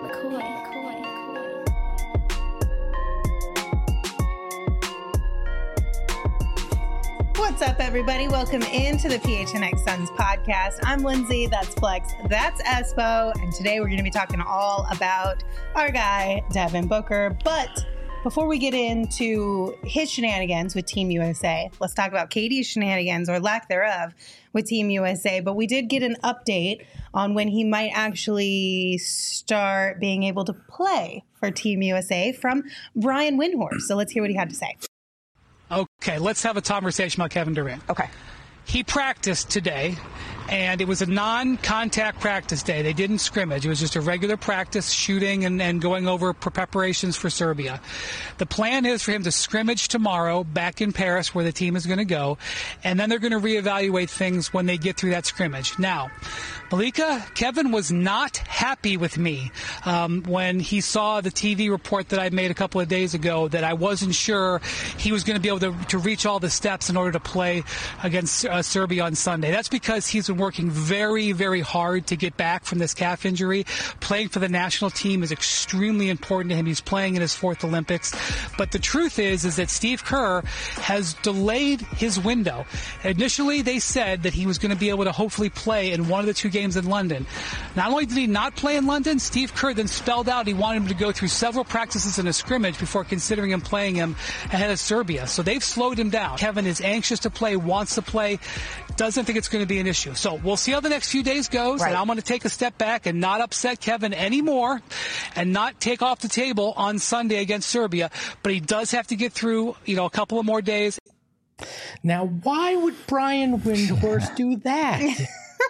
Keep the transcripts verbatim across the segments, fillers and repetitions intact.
McCoy. McCoy. What's up, everybody? Welcome into the P H N X Suns podcast. I'm Lindsay. That's Flex. That's Espo. And today we're going to be talking all about our guy, Devin Booker. But before we get into his shenanigans with Team U S A, let's talk about K D's shenanigans or lack thereof with Team U S A. But we did get an update on when he might actually start being able to play for Team U S A from Brian Windhorst. So let's hear what he had to say. Okay, let's have a conversation about Kevin Durant. Okay. He practiced today, and it was a non-contact practice day. They didn't scrimmage. It was just a regular practice, shooting and, and going over preparations for Serbia. The plan is for him to scrimmage tomorrow back in Paris, where the team is going to go, and then they're going to reevaluate things when they get through that scrimmage. Now, Malika, Kevin was not happy with me um, when he saw the T V report that I made a couple of days ago that I wasn't sure he was going to be able to, to reach all the steps in order to play against uh, Serbia on Sunday. That's because he's been working very, very hard to get back from this calf injury. Playing for the national team is extremely important to him. He's playing in his fourth Olympics. But the truth is, is that Steve Kerr has delayed his window. Initially, they said that he was going to be able to hopefully play in one of the two games in London. Not only did he not play in London, Steve Kerr then spelled out he wanted him to go through several practices in a scrimmage before considering him playing him ahead of Serbia. So they've slowed him down. Kevin is anxious to play, wants to play, doesn't think it's going to be an issue. So we'll see how the next few days goes, right. And I'm going to take a step back and not upset Kevin anymore and not take off the table on Sunday against Serbia. But he does have to get through, you know, a couple of more days. Now, why would Brian Windhorst do that?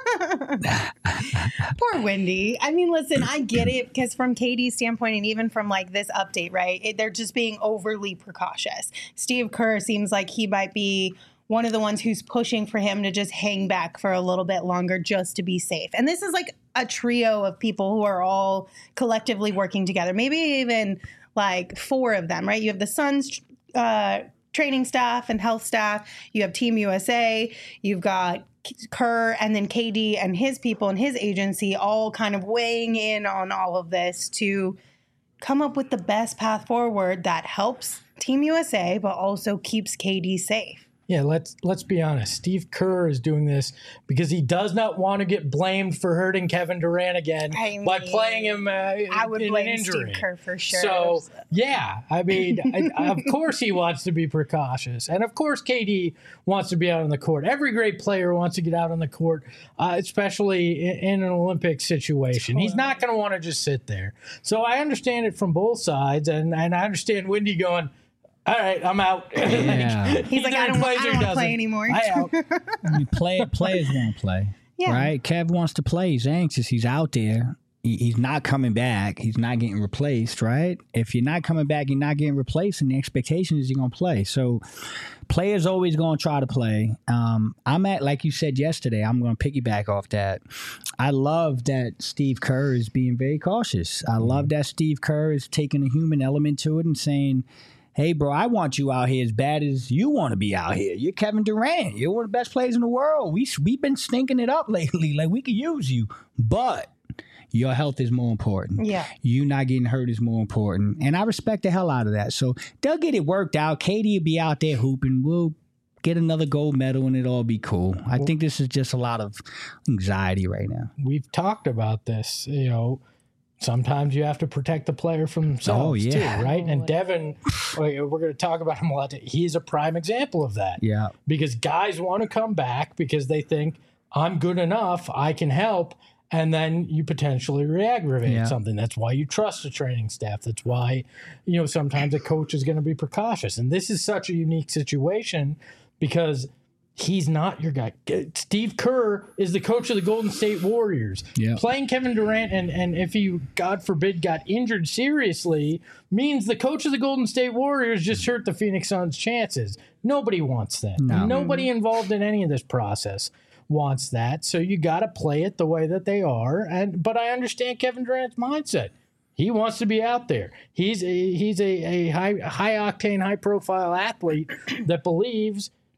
Poor Wendy. I mean, listen, I get it because from K D's standpoint and even from like this update, right, it, they're just being overly precautious. Steve Kerr seems like he might be one of the ones who's pushing for him to just hang back for a little bit longer just to be safe. And this is like a trio of people who are all collectively working together, maybe even like four of them, right? You have the Suns uh, training staff and health staff. You have Team U S A. You've got Kerr and then K D and his people and his agency all kind of weighing in on all of this to come up with the best path forward that helps Team U S A, but also keeps K D safe. Yeah, let's let's be honest. Steve Kerr is doing this because he does not want to get blamed for hurting Kevin Durant again I mean, by playing him uh, I would in blame an injury. Steve Kerr for sure. So, yeah, I mean, I, of course he wants to be precautious. And of course K D wants to be out on the court. Every great player wants to get out on the court, uh, especially in, in an Olympic situation. Totally. He's not going to want to just sit there. So I understand it from both sides, and, and I understand Wendy going, all right, I'm out. Yeah. like, He's like, I don't, I don't want to play anymore. I out. I mean, play, players want to play, yeah. right? Kev wants to play. He's anxious. He's out there. He, he's not coming back. He's not getting replaced, right? If you're not coming back, you're not getting replaced, and the expectation is you're going to play. So players always going to try to play. Um, I'm at, like you said yesterday, I'm going to piggyback off that. I love that Steve Kerr is being very cautious. I love that Steve Kerr is taking a human element to it and saying, hey, bro, I want you out here as bad as you want to be out here. You're Kevin Durant. You're one of the best players in the world. We, we've been stinking it up lately. Like, we could use you. But your health is more important. Yeah. You not getting hurt is more important. And I respect the hell out of that. So they'll get it worked out. K D will be out there hooping. We'll get another gold medal and it'll all be cool. I think this is just a lot of anxiety right now. We've talked about this, you know. Sometimes you have to protect the player from themselves, oh, yeah. too, right? And Devin, we're going to talk about him a lot. He's a prime example of that. Yeah. Because guys want to come back because they think, I'm good enough, I can help, and then you potentially re-aggravate yeah. something. That's why you trust the training staff. That's why, you know, sometimes a coach is going to be precautious. And this is such a unique situation because he's not your guy. Steve Kerr is the coach of the Golden State Warriors. Yeah. Playing Kevin Durant, and, and if he, God forbid, got injured seriously, means the coach of the Golden State Warriors just hurt the Phoenix Suns' chances. Nobody wants that. No. Nobody involved in any of this process wants that. So you got to play it the way that they are. And but I understand Kevin Durant's mindset. He wants to be out there. He's a, he's a, a high high octane, high profile athlete that believes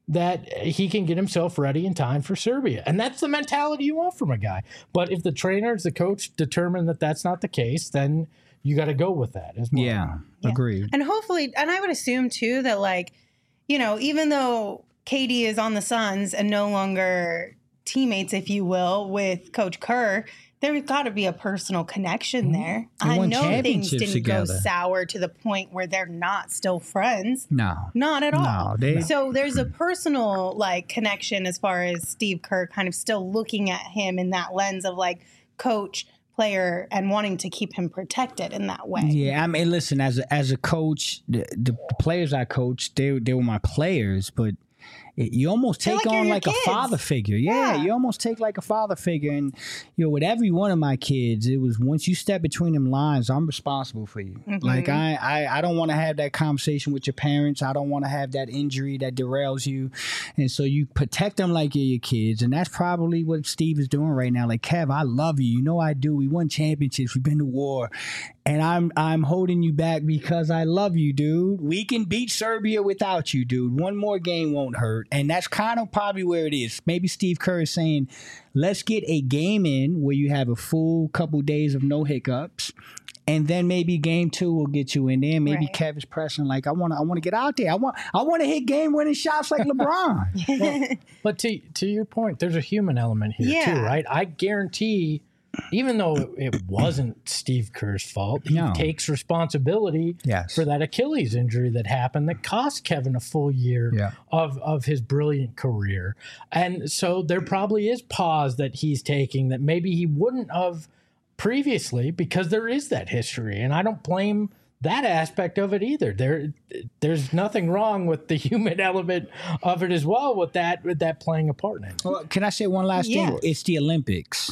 that he can get himself ready in time for Serbia. And that's the mentality you want from a guy. But if the trainers, the coach determine that that's not the case, then you got to go with that as well. Yeah, Yeah. agreed. And hopefully, and I would assume too that, like, you know, even though K D is on the Suns and no longer teammates, if you will, with Coach Kerr, there's got to be a personal connection there. They I won know things championships didn't go together. sour to the point where they're not still friends. No. Not at all. No, they- so there's a personal like connection as far as Steve Kerr kind of still looking at him in that lens of like coach, player, and wanting to keep him protected in that way. Yeah, I mean, listen, as a, as a coach, the, the players I coached, they they were my players, but it, you almost They're take like you're on your like kids. a father figure. Yeah, Yeah. you almost take like a father figure, and you know, with every one of my kids, it was once you step between them lines, I'm responsible for you. Mm-hmm. Like I, I, I don't want to have that conversation with your parents. I don't want to have that injury that derails you, and so you protect them like you're your kids, and that's probably what Steve is doing right now. Like, Kev, I love you. You know I do. We won championships. We've been to war. And I'm I'm holding you back because I love you, dude. We can beat Serbia without you, dude. One more game won't hurt. And that's kind of probably where it is. Maybe Steve Kerr is saying, let's get a game in where you have a full couple days of no hiccups. And then maybe game two will get you in there. Maybe Right. Kev is pressing like, I want to I want to get out there. I want I want to hit game winning shots like LeBron. But to to your point, there's a human element here Yeah. too, right? I guarantee, even though it wasn't Steve Kerr's fault, he No. takes responsibility Yes. for that Achilles injury that happened that cost Kevin a full year Yeah. of, of his brilliant career. And so there probably is pause that he's taking that maybe he wouldn't have previously because there is that history. And I don't blame that aspect of it either. There, there's nothing wrong with the human element of it as well. With that, with that playing a part in it. Well, can I say one last Yeah. thing? It's the Olympics.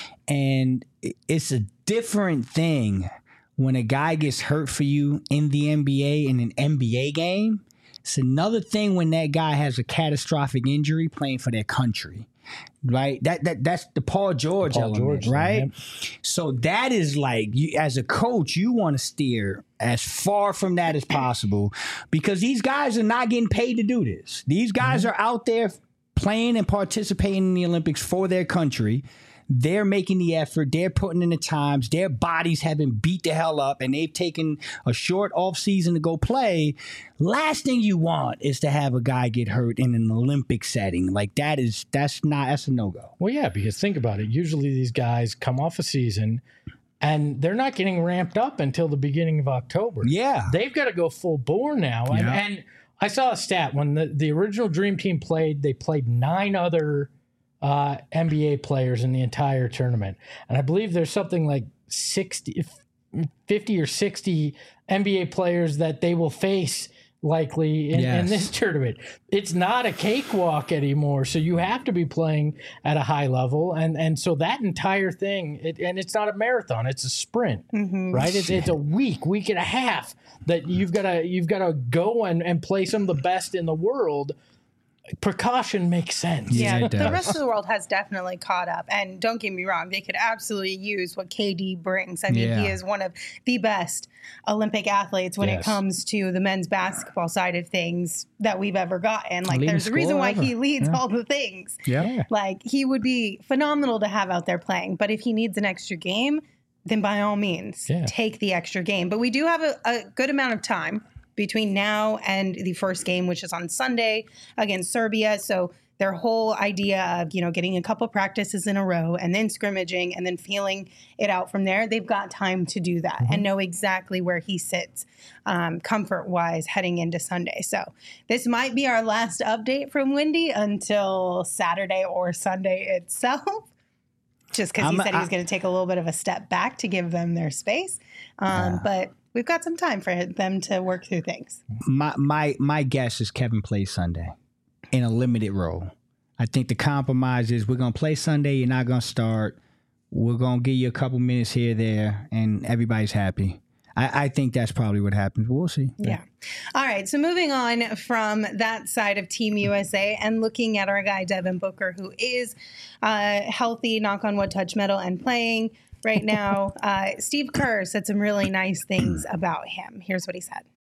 And it's a different thing when a guy gets hurt for you in the N B A in an N B A game. It's another thing when that guy has a catastrophic injury playing for their country. Right? That that that's the Paul George Paul element, George thing, right? yep. So that is like you as a coach, you want to steer as far from that as possible because these guys are not getting paid to do this. These guys Mm-hmm. are out there playing and participating in the Olympics for their country. They're making the effort. They're putting in the times. Their bodies have been beat the hell up, and they've taken a short off season to go play. Last thing you want is to have a guy get hurt in an Olympic setting. Like that is that's not that's a no go. Well, yeah, because think about it. Usually these guys come off a season and they're not getting ramped up until the beginning of October. Yeah. They've got to go full bore now. And, Yeah. and I saw a stat when the, the original Dream Team played, they played nine other uh, N B A players in the entire tournament. And I believe there's something like sixty, fifty or sixty N B A players that they will face likely in, in Yes. this tournament. It's not a cakewalk anymore. So you have to be playing at a high level. And, and so that entire thing, it, and it's not a marathon, it's a sprint, right? It's, it's a week, week and a half that you've got to, you've got to go and, and play some of the best in the world. Precaution makes sense. Yeah, Yeah, it the does. rest of the world has definitely caught up. And don't get me wrong, they could absolutely use what K D brings. I mean, Yeah. he is one of the best Olympic athletes when Yes. it comes to the men's basketball side of things that we've ever gotten. Like, Leading there's a reason scorer why ever. he leads Yeah. all the things. Yeah. Like, he would be phenomenal to have out there playing. But if he needs an extra game, then by all means, Yeah. take the extra game. But we do have a, a good amount of time between now and the first game, which is on Sunday against Serbia. So their whole idea of, you know, getting a couple practices in a row and then scrimmaging and then feeling it out from there, they've got time to do that and know exactly where he sits um, comfort-wise heading into Sunday. So this might be our last update from Wendy until Saturday or Sunday itself. Just because he I'm- said he was I- going to take a little bit of a step back to give them their space. Um, But we've got some time for them to work through things. My my my guess is Kevin plays Sunday in a limited role. I think the compromise is we're gonna play Sunday. You're not gonna start. We're gonna give you a couple minutes here, there, and everybody's happy. I, I think that's probably what happens. We'll see. Yeah. All right. So moving on from that side of Team U S A and looking at our guy, Devin Booker, who is uh, healthy, knock on wood, touch metal, and playing right now. uh, Steve Kerr said some really nice things about him. Here's what he said.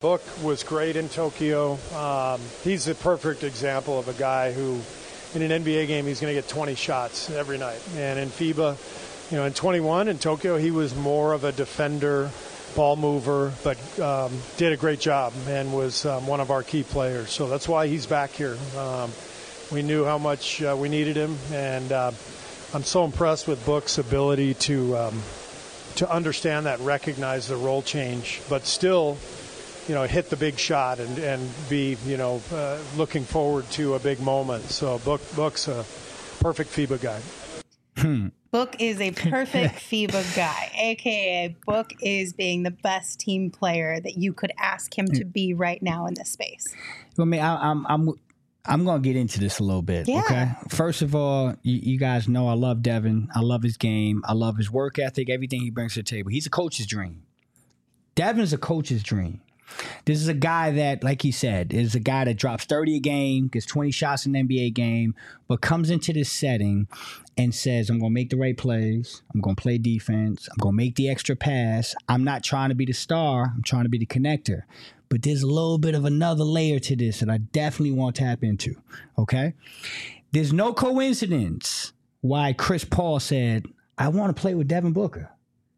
Book was great in Tokyo. Um, he's a perfect example of a guy who, in an N B A game, he's going to get twenty shots every night. And in FIBA, you know, in twenty-one in Tokyo, he was more of a defender, ball mover, but um, did a great job and was um, one of our key players. So that's why he's back here. Um, we knew how much uh, we needed him, and uh, I'm so impressed with Book's ability to um, to understand that, recognize the role change, but still, you know, hit the big shot and, and be, you know, uh, looking forward to a big moment. So Book Book's a perfect FIBA guy. Hmm. Book is a perfect FIBA guy, a k a. Book is being the best team player that you could ask him to be right now in this space. Well, I mean, I, I'm I'm I'm gonna get into this a little bit. Yeah. Okay. First of all, you, you guys know I love Devin. I love his game. I love his work ethic. Everything he brings to the table. He's a coach's dream. Devin's a coach's dream. This is a guy that, like he said, is a guy that drops thirty a game, gets twenty shots in an N B A game, but comes into this setting and says, I'm going to make the right plays. I'm going to play defense. I'm going to make the extra pass. I'm not trying to be the star. I'm trying to be the connector. But there's a little bit of another layer to this that I definitely want to tap into, okay? There's no coincidence why Chris Paul said, I want to play with Devin Booker,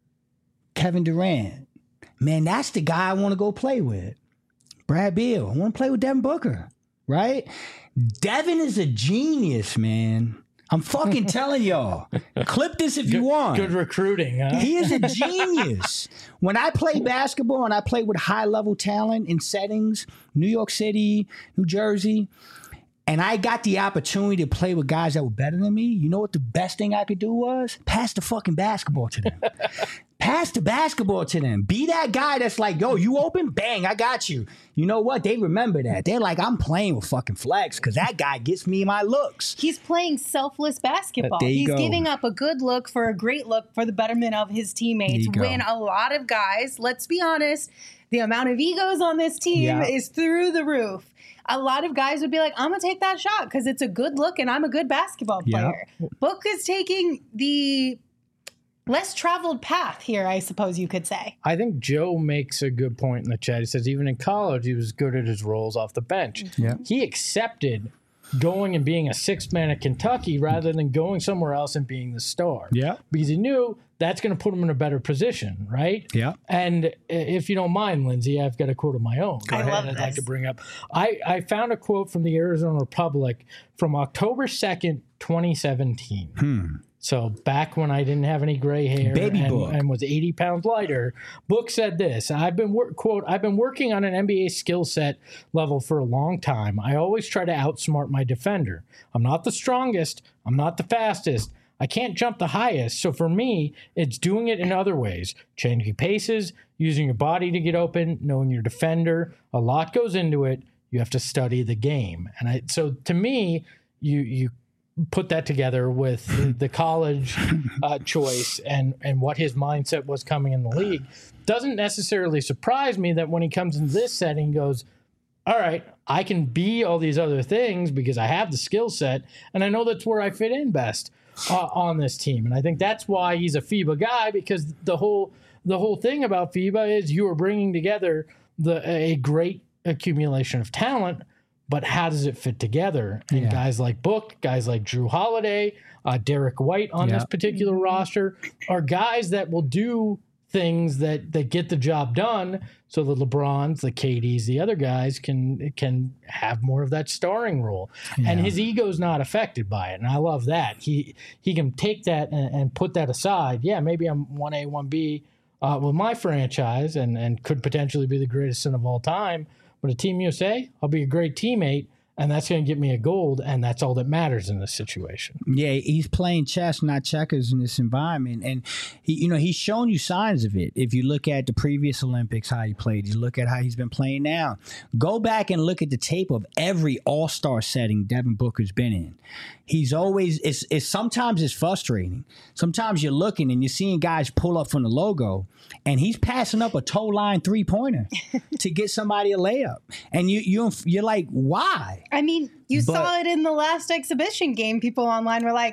Kevin Durant. Man, that's the guy I want to go play with. Brad Beal, I want to play with Devin Booker, right? Devin is a genius, man. I'm fucking telling y'all. Clip this if Good, you want. good recruiting, huh? He is a genius. When I play basketball and I play with high-level talent in settings, New York City, New Jersey, and I got the opportunity to play with guys that were better than me, you know what the best thing I could do was? Pass the fucking basketball to them. Pass the basketball to them. Be that guy that's like, yo, you open? Bang, I got you. You know what? They remember that. They're like, I'm playing with fucking Flex because that guy gets me my looks. He's playing selfless basketball. There you He's go. giving up a good look for a great look for the betterment of his teammates. you go. When a lot of guys, let's be honest, the amount of egos on this team Yeah. is through the roof. A lot of guys would be like, I'm going to take that shot because it's a good look and I'm a good basketball Yeah. player. Book is taking the less traveled path here, I suppose you could say. I think Joe makes a good point in the chat. He says even in college, he was good at his roles off the bench. Yeah. He accepted going and being a sixth man at Kentucky rather than going somewhere else and being the star. Yeah. Because he knew that's going to put him in a better position, right? Yeah. And if you don't mind, Lindsay, I've got a quote of my own. I love I'd like this. to bring up. I, I found a quote from the Arizona Republic from October second, twenty seventeen. Hmm. So back when I didn't have any gray hair Baby and, Book. and was eighty pounds lighter, Book said this, I've been, wor- quote, I've been working on an N B A skill set level for a long time. I always try to outsmart my defender. I'm not the strongest. I'm not the fastest. I can't jump the highest. So for me, it's doing it in other ways. Changing paces, using your body to get open, knowing your defender. A lot goes into it. You have to study the game. And I, so to me, you, you, put that together with the college uh, choice and, and what his mindset was coming in the league. Doesn't necessarily surprise me that when he comes into this setting, he goes, all right, I can be all these other things because I have the skill set, and I know that's where I fit in best uh, on this team. And I think that's why he's a FIBA guy, because the whole the whole thing about FIBA is you are bringing together the a great accumulation of talent, but how does it fit together? And Yeah. guys like Book, guys like Drew Holiday, uh, Derek White on Yeah. this particular roster are guys that will do things that, that get the job done so the LeBrons, the K Ds, the other guys can can have more of that starring role. And his ego's not affected by it. And I love that. He he can take that and, and put that aside. Yeah, maybe I'm one A, one B uh, with my franchise and, and could potentially be the greatest son of all time. But at Team U S A, I'll be a great teammate, and that's going to get me a gold, and that's all that matters in this situation. Yeah, he's playing chess, not checkers in this environment. And, he, you know, he's shown you signs of it. If you look at the previous Olympics, how he played, you look at how he's been playing now. Go back and look at the tape of every all-star setting Devin Booker's been in. He's always, it's, it's sometimes it's frustrating. Sometimes you're looking and you're seeing guys pull up from the logo, and he's passing up a toe line three-pointer to get somebody a layup. And you, you, you're like, why? I mean, you But- saw it in the last exhibition game. People online were like,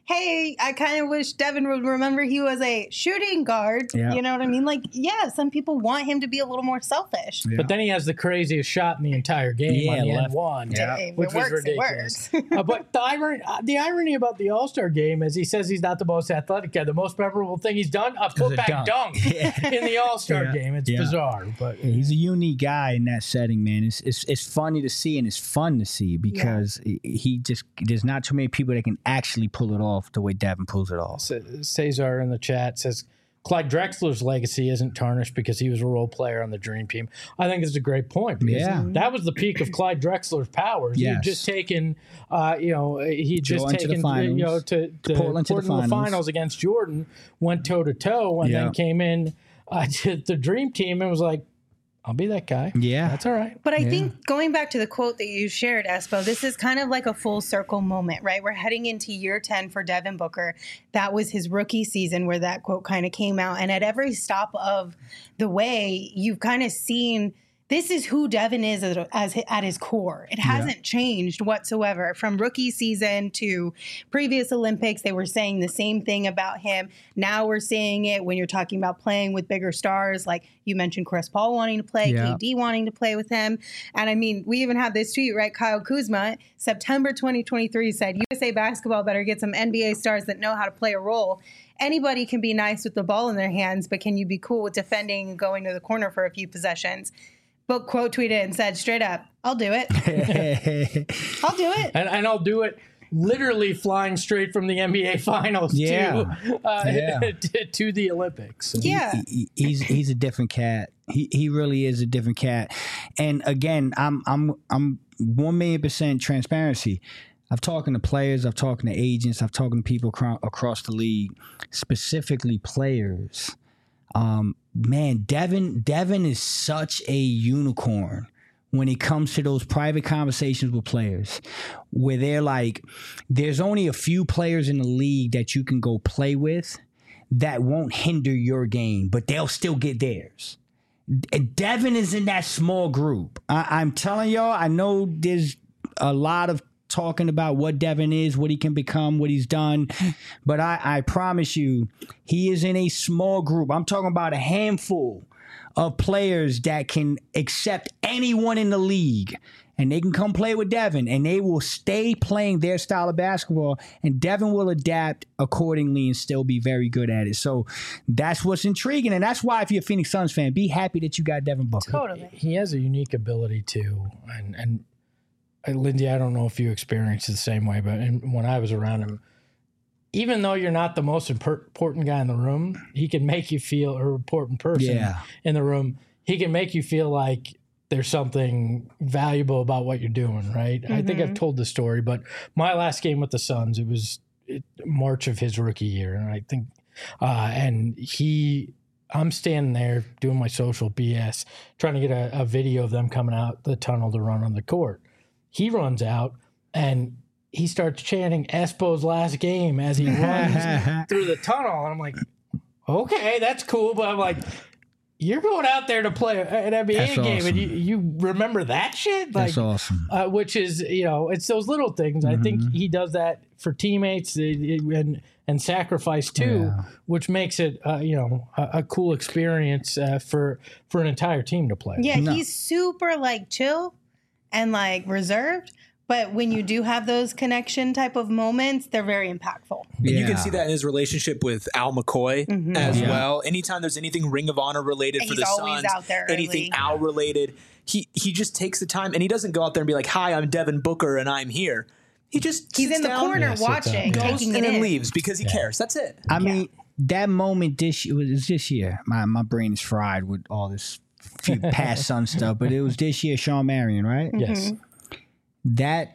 hey, I kind of wish Devin would remember he was a shooting guard. Yeah. You know what I mean? Like, yeah, some people want him to be a little more selfish. Yeah. But then he has the craziest shot in the entire game Yeah, on the left. end one, Yeah. If which it was works, it ridiculous. works. uh, but the irony, uh, the irony about the All-Star game is he says he's not the most athletic guy. The most memorable thing he's done, a putback dunk. dunk, Yeah. in the All-Star Yeah. game. It's Yeah. bizarre, but Yeah, he's a unique guy in that setting, man. It's, it's it's funny to see and it's fun to see because he- he just there's not too many people that can actually pull it off the way Devin pulls it off. Cesar in the chat says Clyde Drexler's legacy isn't tarnished because he was a role player on the Dream Team. I think it's a great point because Yeah. that was the peak of Clyde Drexler's powers. He had Yes. just taken, uh, you know, he just Jordan to the taken, finals. you know, to, to Portland to the finals. finals against Jordan, went toe to toe, and Yeah. then came in uh, to the Dream Team and was like, "I'll be that guy. Yeah. That's all right." But I think going back to the quote that you shared, Espo, this is kind of like a full circle moment, right? We're heading into year ten for Devin Booker. That was his rookie season where that quote kind of came out. And at every stop of the way, you've kind of seen this is who Devin is as, as at his core. It hasn't changed whatsoever from rookie season to previous Olympics. They were saying the same thing about him. Now we're seeing it when you're talking about playing with bigger stars, like you mentioned Chris Paul wanting to play, Yeah. K D wanting to play with him. And I mean, we even had this tweet, right? Kyle Kuzma, September twenty twenty-three said, U S A basketball better get some N B A stars that know how to play a role. Anybody can be nice with the ball in their hands, but can you be cool with defending and going to the corner for a few possessions? Book quote tweeted and said straight up, I'll do it. I'll do it. And, and I'll do it literally flying straight from the N B A Finals Yeah. to, uh, Yeah. to to the Olympics. So- Yeah. He- he- he's he's a different cat. He he really is a different cat. And again, I'm I'm I'm one million percent transparency. I've talking to players, I've talking to agents, I've talking to people acro- across the league, specifically players. Um, man, Devin Devin is such a unicorn when it comes to those private conversations with players where they're like, there's only a few players in the league that you can go play with that won't hinder your game, but they'll still get theirs. Devin is in that small group. I, I'm telling y'all, I know there's a lot of talking about what Devin is, what he can become, what he's done, but I, I promise you, he is in a small group. I'm talking about a handful of players that can accept anyone in the league, and they can come play with Devin, and they will stay playing their style of basketball, and Devin will adapt accordingly and still be very good at it. So that's what's intriguing, and that's why if you're a Phoenix Suns fan, be happy that you got Devin Booker. Totally. He has a unique ability too, and and uh, Lindsay, I don't know if you experienced it the same way, but in, when I was around him, even though you're not the most impor- important guy in the room, he can make you feel, or important person Yeah. in the room, he can make you feel like there's something valuable about what you're doing, right? I think I've told the story, but my last game with the Suns, it was it, March of his rookie year, and I think, uh, and he. I'm standing there doing my social B S, trying to get a, a video of them coming out the tunnel to run on the court. He runs out and he starts chanting Espo's last game as he runs through the tunnel. And I'm like, okay, that's cool. But I'm like, you're going out there to play an N B A That's game awesome. and you, you remember that shit? Like, That's awesome. uh, which is, you know, it's those little things. I think he does that for teammates and and sacrifice too, Yeah. which makes it, uh, you know, a, a cool experience uh, for for an entire team to play. Yeah, No. he's super like chill and like reserved. But when you do have those connection type of moments, they're very impactful. And you Yeah. can see that in his relationship with Al McCoy as Yeah. well. Anytime there's anything Ring of Honor related for He's the always Suns, out there anything early. Al related, he he just takes the time and he doesn't go out there and be like, "Hi, I'm Devin Booker and I'm here." He just He's sits in the down, corner Yeah, sit down. watching, Goes taking and it then in. leaves because he cares. That's it. I mean, that moment this year was was this year. My my brain is fried with all this few past Sun stuff, but it was this year. Sean Marion, right? Yes. That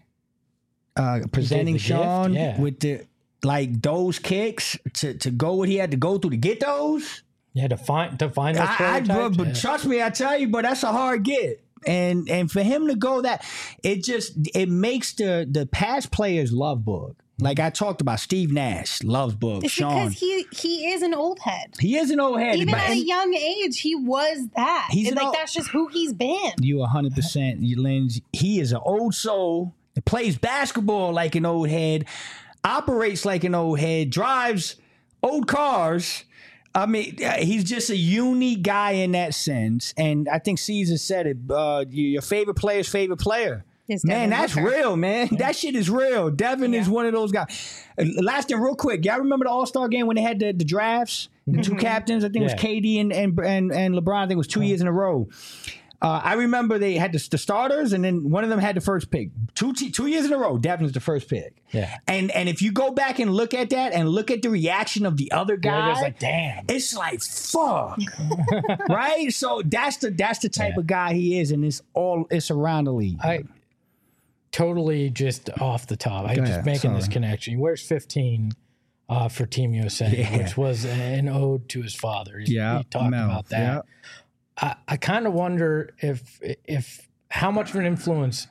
uh, presenting the gift? Sean Yeah. with the like those kicks to to go what he had to go through to get those. Yeah, to find to find those I, I but, prototypes, but yeah. trust me, I tell you, but that's a hard get. And and for him to go that, it just it makes the the past players love Book. Like I talked about, Steve Nash loves Book. It's Sean, because he he is an old head. he is an old head. Even but- at a and young age, he was that. He's And, an like old- that's just who he's been. You one hundred percent, you Lynn. He is an old soul that plays basketball like an old head. operates like an old head, drives old cars. I mean, he's just a unique guy in that sense. And I think Caesar said it, uh, your favorite player's favorite player. It's Man, Devin that's Booker. real, man. Yeah. That shit is real. Devin Yeah. is one of those guys. Uh, Last thing, real quick. Y'all remember the All-Star game when they had the, the drafts? The two captains? I think it Yeah. was K D and, and, and, and LeBron. I think it was two years in a row. Uh, I remember they had the, the starters, and then one of them had the first pick. Two t- two years in a row, Devin's the first pick. Yeah. And and if you go back and look at that and look at the reaction of the other guy, Yeah, it's like, damn. it's like fuck, right? So that's the that's the type Yeah. of guy he is, and it's all it's around the league. I totally just off the top. I'm Go just ahead, making this sorry. connection. He wears fifteen uh, for Team U S A, Yeah. which was an ode to his father. He, Yeah, he talked Mel, about that. yeah. I, I kind of wonder if if how much of an influence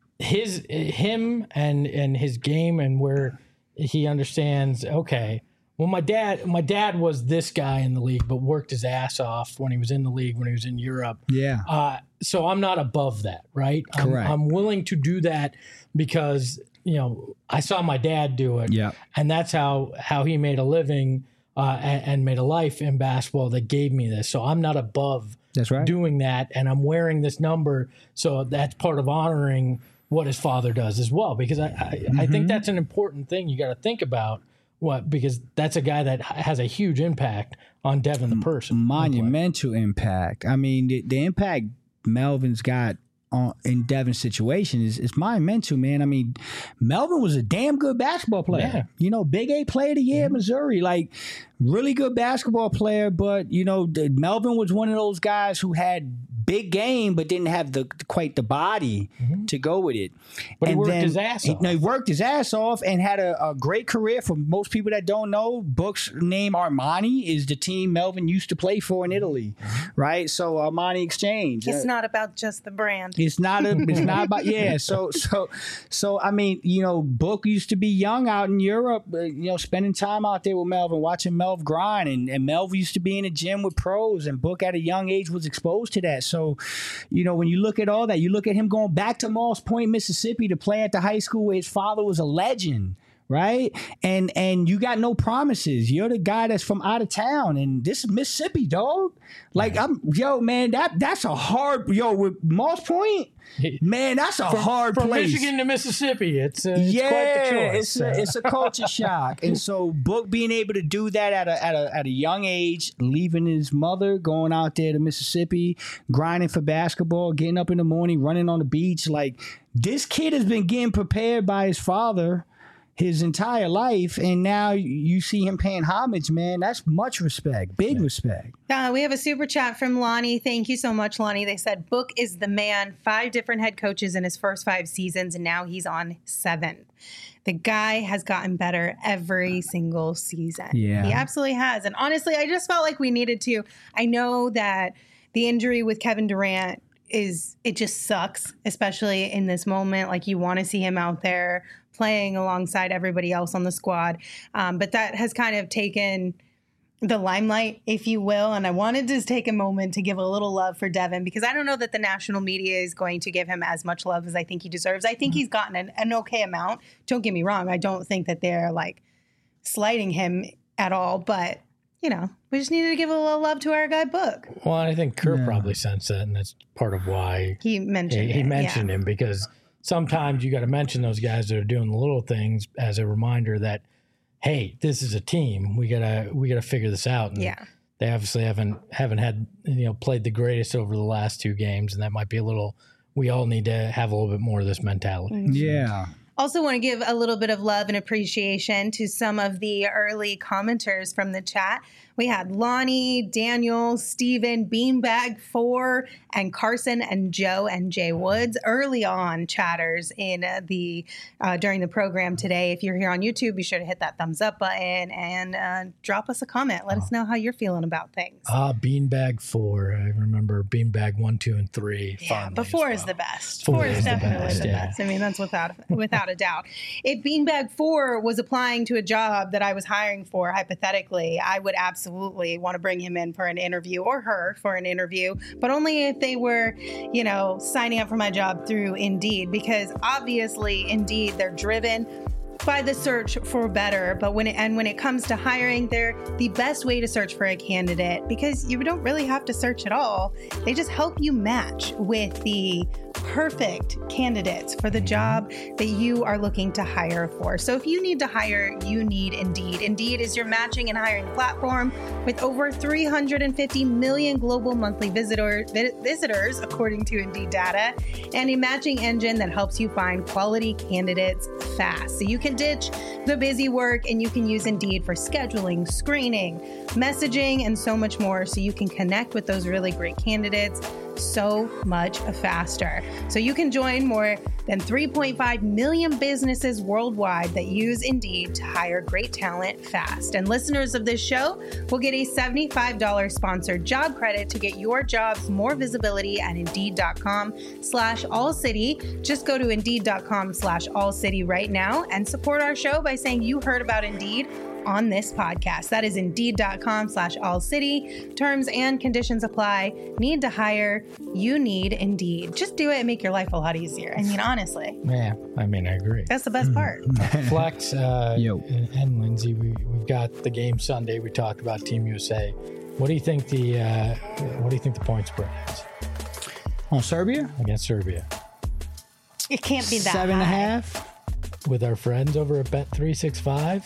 his him and and his game and where he understands. Okay, well, my dad my dad was this guy in the league, but worked his ass off when he was in the league when he was in Europe. Yeah. Uh, so I'm not above that, right? I'm, Correct. I'm willing to do that because you know I saw my dad do it, Yeah. and that's how how he made a living uh, and, and made a life in basketball that gave me this. So I'm not above That's right. doing that, and I'm wearing this number, so that's part of honoring what his father does as well. Because I I, I Mm-hmm. think that's an important thing you got to think about. What because that's a guy that has a huge impact on Devin the person. Monumental impact. I mean, the, the impact Melvin's got on in Devin's situation is, is monumental, man. I mean, Melvin was a damn good basketball player. Yeah. You know, Big Eight Player of the Year, Missouri, like really good basketball player. But you know, the, Melvin was one of those guys who had big game, but didn't have the quite the body to go with it. But he And worked then- his ass he- off. No, he worked his ass off and had a, a great career. For most people that don't know, Book's name Armani is the team Melvin used to play for in Italy, right? So Armani Exchange. It's Uh, not about just the brand. it's not a, it's not about yeah. So so so I mean, you know, Book used to be young out in Europe, uh, you know, spending time out there with Melvin, watching Melv grind, and and Melv used to be in the gym with pros, and Book at a young age was exposed to that. So, you know, when you look at all that, you look at him going back to Moss Point, Mississippi, to play at the high school where his father was a legend. Right. And and you got no promises. You're the guy that's from out of town. And this is Mississippi, dog. Like, I'm yo, man, that that's a hard yo, with Moss Point, man, that's a hard From place. Michigan to Mississippi, it's, uh, it's yeah, quite the choice. it's a, Uh, it's a culture shock. And so Book being able to do that at a at a at a young age, leaving his mother, going out there to Mississippi, grinding for basketball, getting up in the morning, running on the beach, like this kid has been getting prepared by his father his entire life, and now you see him paying homage, man. That's much respect, big respect. Uh, we have a super chat from Lonnie. Thank you so much, Lonnie. They said Book is the man. Five different head coaches in his first five seasons, and now he's on seventh. The guy has gotten better every single season. Yeah. He absolutely has. And honestly, I just felt like we needed to. I know that the injury with Kevin Durant is, it just sucks, especially in this moment. Like, you want to see him out there playing alongside everybody else on the squad. Um, but that has kind of taken the limelight, if you will. And I wanted to take a moment to give a little love for Devin, because I don't know that the national media is going to give him as much love as I think he deserves. I think he's gotten an, an okay amount. Don't get me wrong. I don't think that they're like slighting him at all, but you know, we just needed to give a little love to our guy Book. well, I think Kurt probably sensed that, and that's part of why He mentioned he, he it, mentioned yeah. him, because sometimes you got to mention those guys that are doing the little things as a reminder that, hey, this is a team. We gotta we gotta figure this out. And Yeah. they obviously haven't haven't had you know played the greatest over the last two games, and that might be a little. We all need to have a little bit more of this mentality. Yeah. Also want to give a little bit of love and appreciation to some of the early commenters from the chat. We had Lonnie, Daniel, Steven, Beanbag four, and Carson and Joe and Jay Woods. Early on chatters in uh, the uh, during the program today. If you're here on YouTube, be sure to hit that thumbs up button and uh, drop us a comment. Let us know how you're feeling about things. Ah, Beanbag four. I remember Beanbag one, two, and three. Yeah, fondly but as four well. is the best. Four Four, is is the definitely best, the yeah. best. I mean, that's without without a doubt. If Beanbag four was applying to a job that I was hiring for, hypothetically, I would absolutely want to bring him in for an interview, or her for an interview, but only if they were, you know, signing up for my job through Indeed, because obviously Indeed, they're driven. by the search for better, but when it, and when it comes to hiring, they're the best way to search for a candidate because you don't really have to search at all. They just help you match with the perfect candidates for the job that you are looking to hire for. So if you need to hire, you need Indeed. Indeed is your matching and hiring platform with over three hundred fifty million global monthly visitor, visitors, according to Indeed data, and a matching engine that helps you find quality candidates fast. So you can ditch the busy work and you can use Indeed for scheduling, screening, messaging, and so much more so you can connect with those really great candidates so much faster. So you can join more than three point five million businesses worldwide that use Indeed to hire great talent fast. And listeners of this show will get a seventy-five dollars sponsored job credit to get your jobs more visibility at Indeed.com slash All City. Just go to Indeed.com slash All City right now and support our show by saying you heard about Indeed on this podcast. That is Indeed.com slash All City. Terms and conditions apply. Need to hire? You need Indeed. Just do it and make your life a lot easier. I mean, honestly. Yeah, I mean, I agree. That's the best part. Flex uh, Yo. and Lindsay, we, we've got the game Sunday. We talked about Team U S A. What do you think the uh, what do you think the point spread is On Serbia? against Serbia? It can't be that Seven and a high. half. With our friends over at Bet three sixty-five,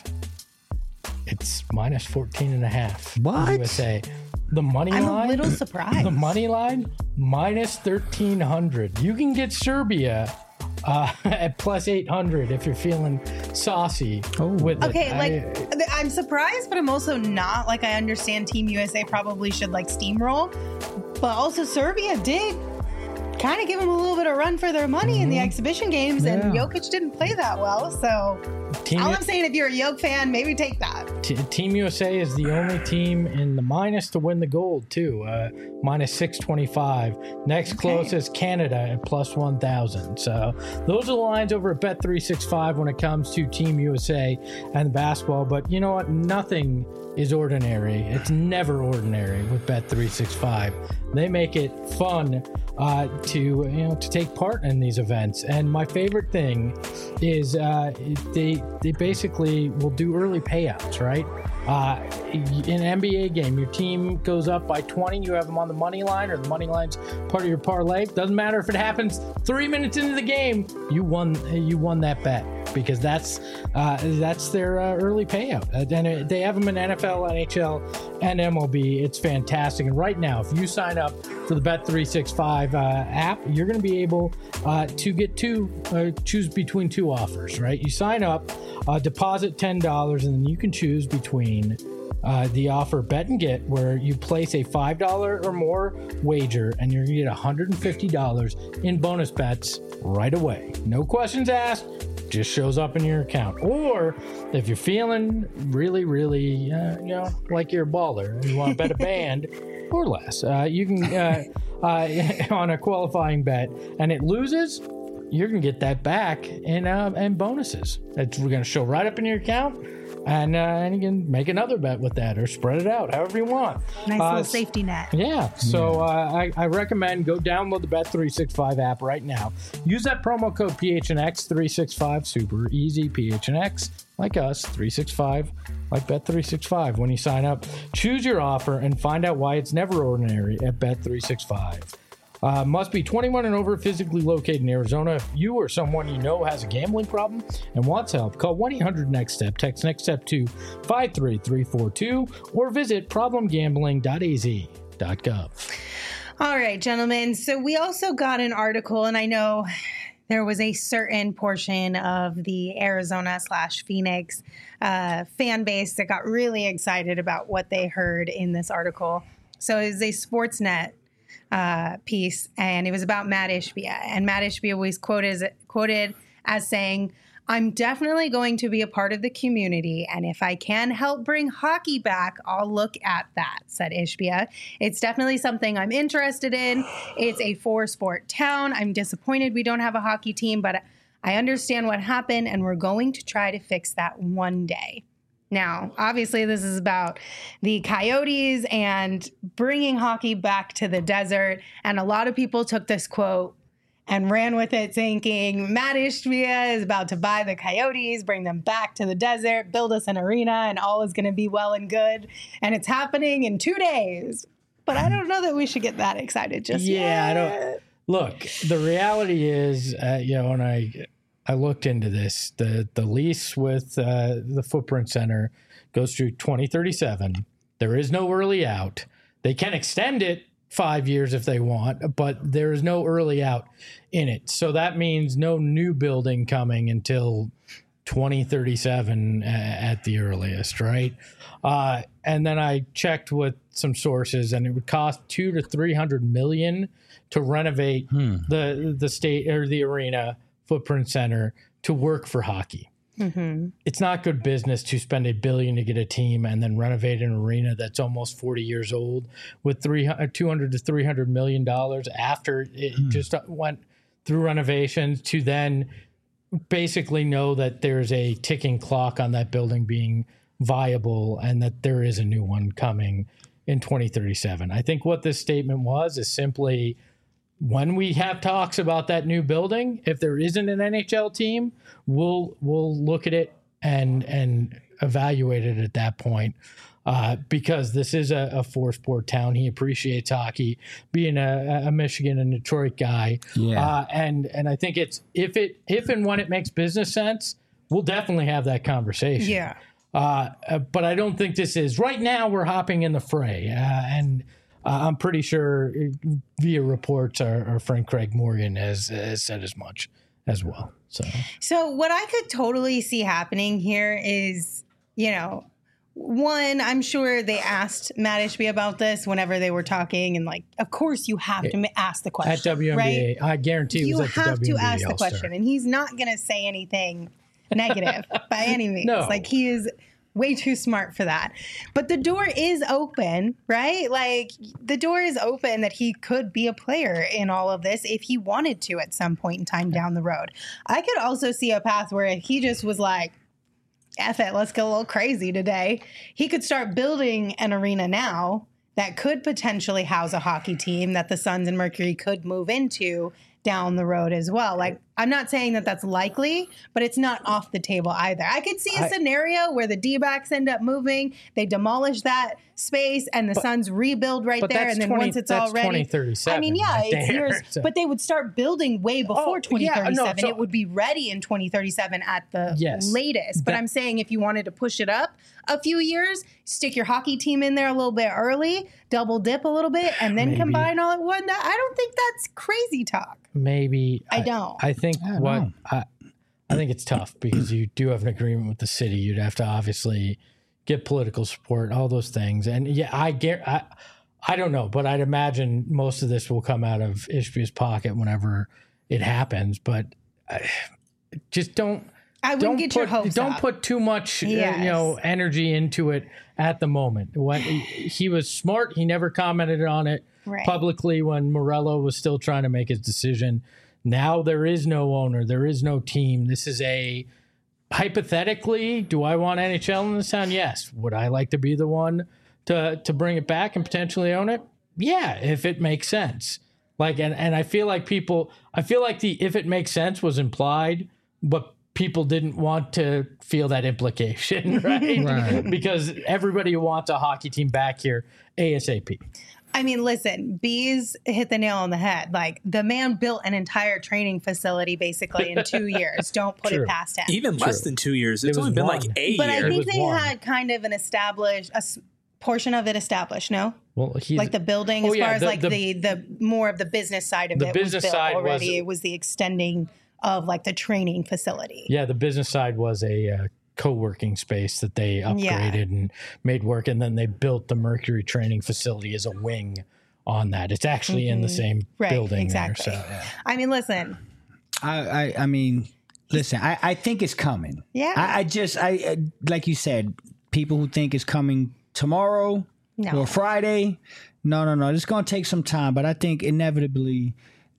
it's minus fourteen and a half. What? U S A. The money I'm line. a little surprised. The money line minus thirteen hundred. You can get Serbia uh, at plus eight hundred if you're feeling saucy. Oh. with Okay, it. like I- I'm surprised, but I'm also not. Like I understand Team U S A probably should like steamroll, but also Serbia did kind of give them a little bit of run for their money in the exhibition games, and Yeah. Jokic didn't play that well. So Team, all I'm saying, if you're a Jokic fan, maybe take that. T- Team U S A is the only team in the minus to win the gold too. Uh, minus six twenty-five. Next closest Canada at plus one thousand. So those are the lines over at Bet three sixty-five when it comes to Team U S A and basketball. But you know what? Nothing is ordinary. It's never ordinary with Bet three sixty-five. They make it fun uh, to you know to take part in these events. And my favorite thing is uh, they they basically will do early payouts, right? Uh, in an N B A game, your team goes up by twenty, you have them on the money line, or the money line's part of your parlay. Doesn't matter if it happens three minutes into the game, you won you won that bet because that's uh, that's their uh, early payout. Uh, and it, they have them in N F L, N H L, and M L B. It's fantastic. And right now, if you sign up for the Bet three sixty-five uh, app, you're going to be able uh, to get two, uh, choose between two offers, right? You sign up, uh, deposit ten dollars, and then you can choose between Uh, the offer Bet and Get, where you place a five dollars or more wager and you're going to get one hundred fifty dollars in bonus bets right away. No questions asked, just shows up in your account. Or if you're feeling really, really, uh, you know, like you're a baller and you want to bet a band or less, uh, you can, uh, uh, on a qualifying bet, and it loses, you're going to get that back in, uh, in bonuses. It's, we're going to show right up in your account. And, uh, and you can make another bet with that or spread it out however you want. Nice Uh, little safety net. Yeah, so uh, I, I recommend go download the Bet three sixty-five app right now. Use that promo code P H N X three sixty-five, super easy, P H N X, like us, three sixty-five, like Bet three sixty-five when you sign up. Choose your offer and find out why it's never ordinary at Bet three sixty-five. Uh, must be twenty-one and over, physically located in Arizona. If you or someone you know has a gambling problem and wants help, call one eight hundred next step, text NEXTSTEP to five three three four two, or visit problem gambling dot a z dot gov. All right, gentlemen. So we also got an article, and I know there was a certain portion of the Arizona slash Phoenix uh, fan base that got really excited about what they heard in this article. So it was a Sportsnet uh, piece, and it was about Matt Ishbia. And Matt Ishbia was quoted as, quoted as saying, "I'm definitely going to be a part of the community, and if I can help bring hockey back, I'll look at that," said Ishbia. "It's definitely something I'm interested in. It's a four-sport town. I'm disappointed we don't have a hockey team, but I understand what happened, and we're going to try to fix that one day." Now, obviously, this is about the Coyotes and bringing hockey back to the desert, and a lot of people took this quote and ran with it thinking Matt Ishbia is about to buy the Coyotes, bring them back to the desert, build us an arena, and all is going to be well and good. And it's happening in two days. But I don't know that we should get that excited just yeah, yet. I don't. Look, the reality is, uh, you know, when I I looked into this, the the lease with uh, the Footprint Center goes through twenty thirty-seven. There is no early out. They can extend it five years if they want, but there is no early out in it. So that means no new building coming until twenty thirty-seven at the earliest, right? Uh, and then I checked with some sources, and it would cost two to three hundred million to renovate hmm. the the state or the arena Footprint Center to work for hockey. Mm-hmm. It's not good business to spend a billion to get a team and then renovate an arena that's almost forty years old with three hundred, two hundred to three hundred million dollars after it hmm. just went through renovations to then basically know that there's a ticking clock on that building being viable and that there is a new one coming in twenty thirty-seven. I think what this statement was is simply, when we have talks about that new building, if there isn't an N H L team, we'll we'll look at it and and evaluate it at that point. Uh, because this is a, a four-sport town. He appreciates hockey, being a, a Michigan and Detroit guy. Yeah. Uh, and and I think it's if it if and when it makes business sense, we'll definitely have that conversation. Yeah. Uh, but I don't think this is right now. We're hopping in the fray, uh, and uh, I'm pretty sure via reports, our, our friend Craig Morgan has, has said as much as well. So, so what I could totally see happening here is, you know, one, I'm sure they asked Matt Ishbia about this whenever they were talking, and like, of course, you have to ask the question at W N B A. Right? I guarantee you it was at have the to W N B A ask the All-Star. question, and he's not going to say anything negative by any means. No. Like, he is way too smart for that. But the door is open, right? Like, the door is open that he could be a player in all of this if he wanted to at some point in time down the road. I could also see a path where he just was like, F it, let's go a little crazy today. He could start building an arena now that could potentially house a hockey team that the Suns and Mercury could move into down the road as well. Like, I'm not saying that that's likely, but it's not off the table either. I could see a I, scenario where the D-backs end up moving, they demolish that space, and the but, Suns rebuild right there, and then twenty, once it's all ready, twenty thirty-seven. I mean, yeah, right it's there, years, so. But they would start building way before oh, twenty thirty-seven. Yeah, no, so, it would be ready in twenty thirty-seven at the yes, that, latest. But I'm saying if you wanted to push it up a few years, stick your hockey team in there a little bit early, double dip a little bit, and then maybe. combine all at one. I don't think that's crazy talk. Maybe I, I don't. I think I what I, I think it's tough because you do have an agreement with the city. You'd have to obviously get political support, all those things. And yeah, I get. I, I don't know, but I'd imagine most of this will come out of Ishbia's pocket whenever it happens. But I, just don't. I wouldn't don't get put, your hopes Don't up. put too much, yes. uh, you know, energy into it at the moment. When he, he was smart, he never commented on it right. publicly when Morello was still trying to make his decision. Now there is no owner, there is no team. This is a hypothetically. Do I want N H L in this town? Yes. Would I like to be the one to to bring it back and potentially own it? Yeah, if it makes sense. Like, and and I feel like people. I feel like the if it makes sense was implied, but people didn't want to feel that implication, right? right? Because everybody wants a hockey team back here ASAP. I mean, listen, Bees hit the nail on the head. Like, the man built an entire training facility basically in two years. Don't put True. it past him. Even True. less than two years. It's it only been one. like a but year. But I think they one. had kind of an established, a portion of it established, no? Well, he's, like the building, oh, as yeah, far as the, like the, the, the more of the business side of the it business was built side already. Was, it was the extending of like the training facility. Yeah, the business side was a uh, co-working space that they upgraded yeah. and made work, and then they built the Mercury training facility as a wing on that. It's actually mm-hmm. in the same right, building exactly. there. So, yeah. I mean, listen. I, I, I mean, listen. I, I think it's coming. Yeah. I, I just, I, I like you said, people who think it's coming tomorrow no. or Friday. No, no, no. It's going to take some time, but I think inevitably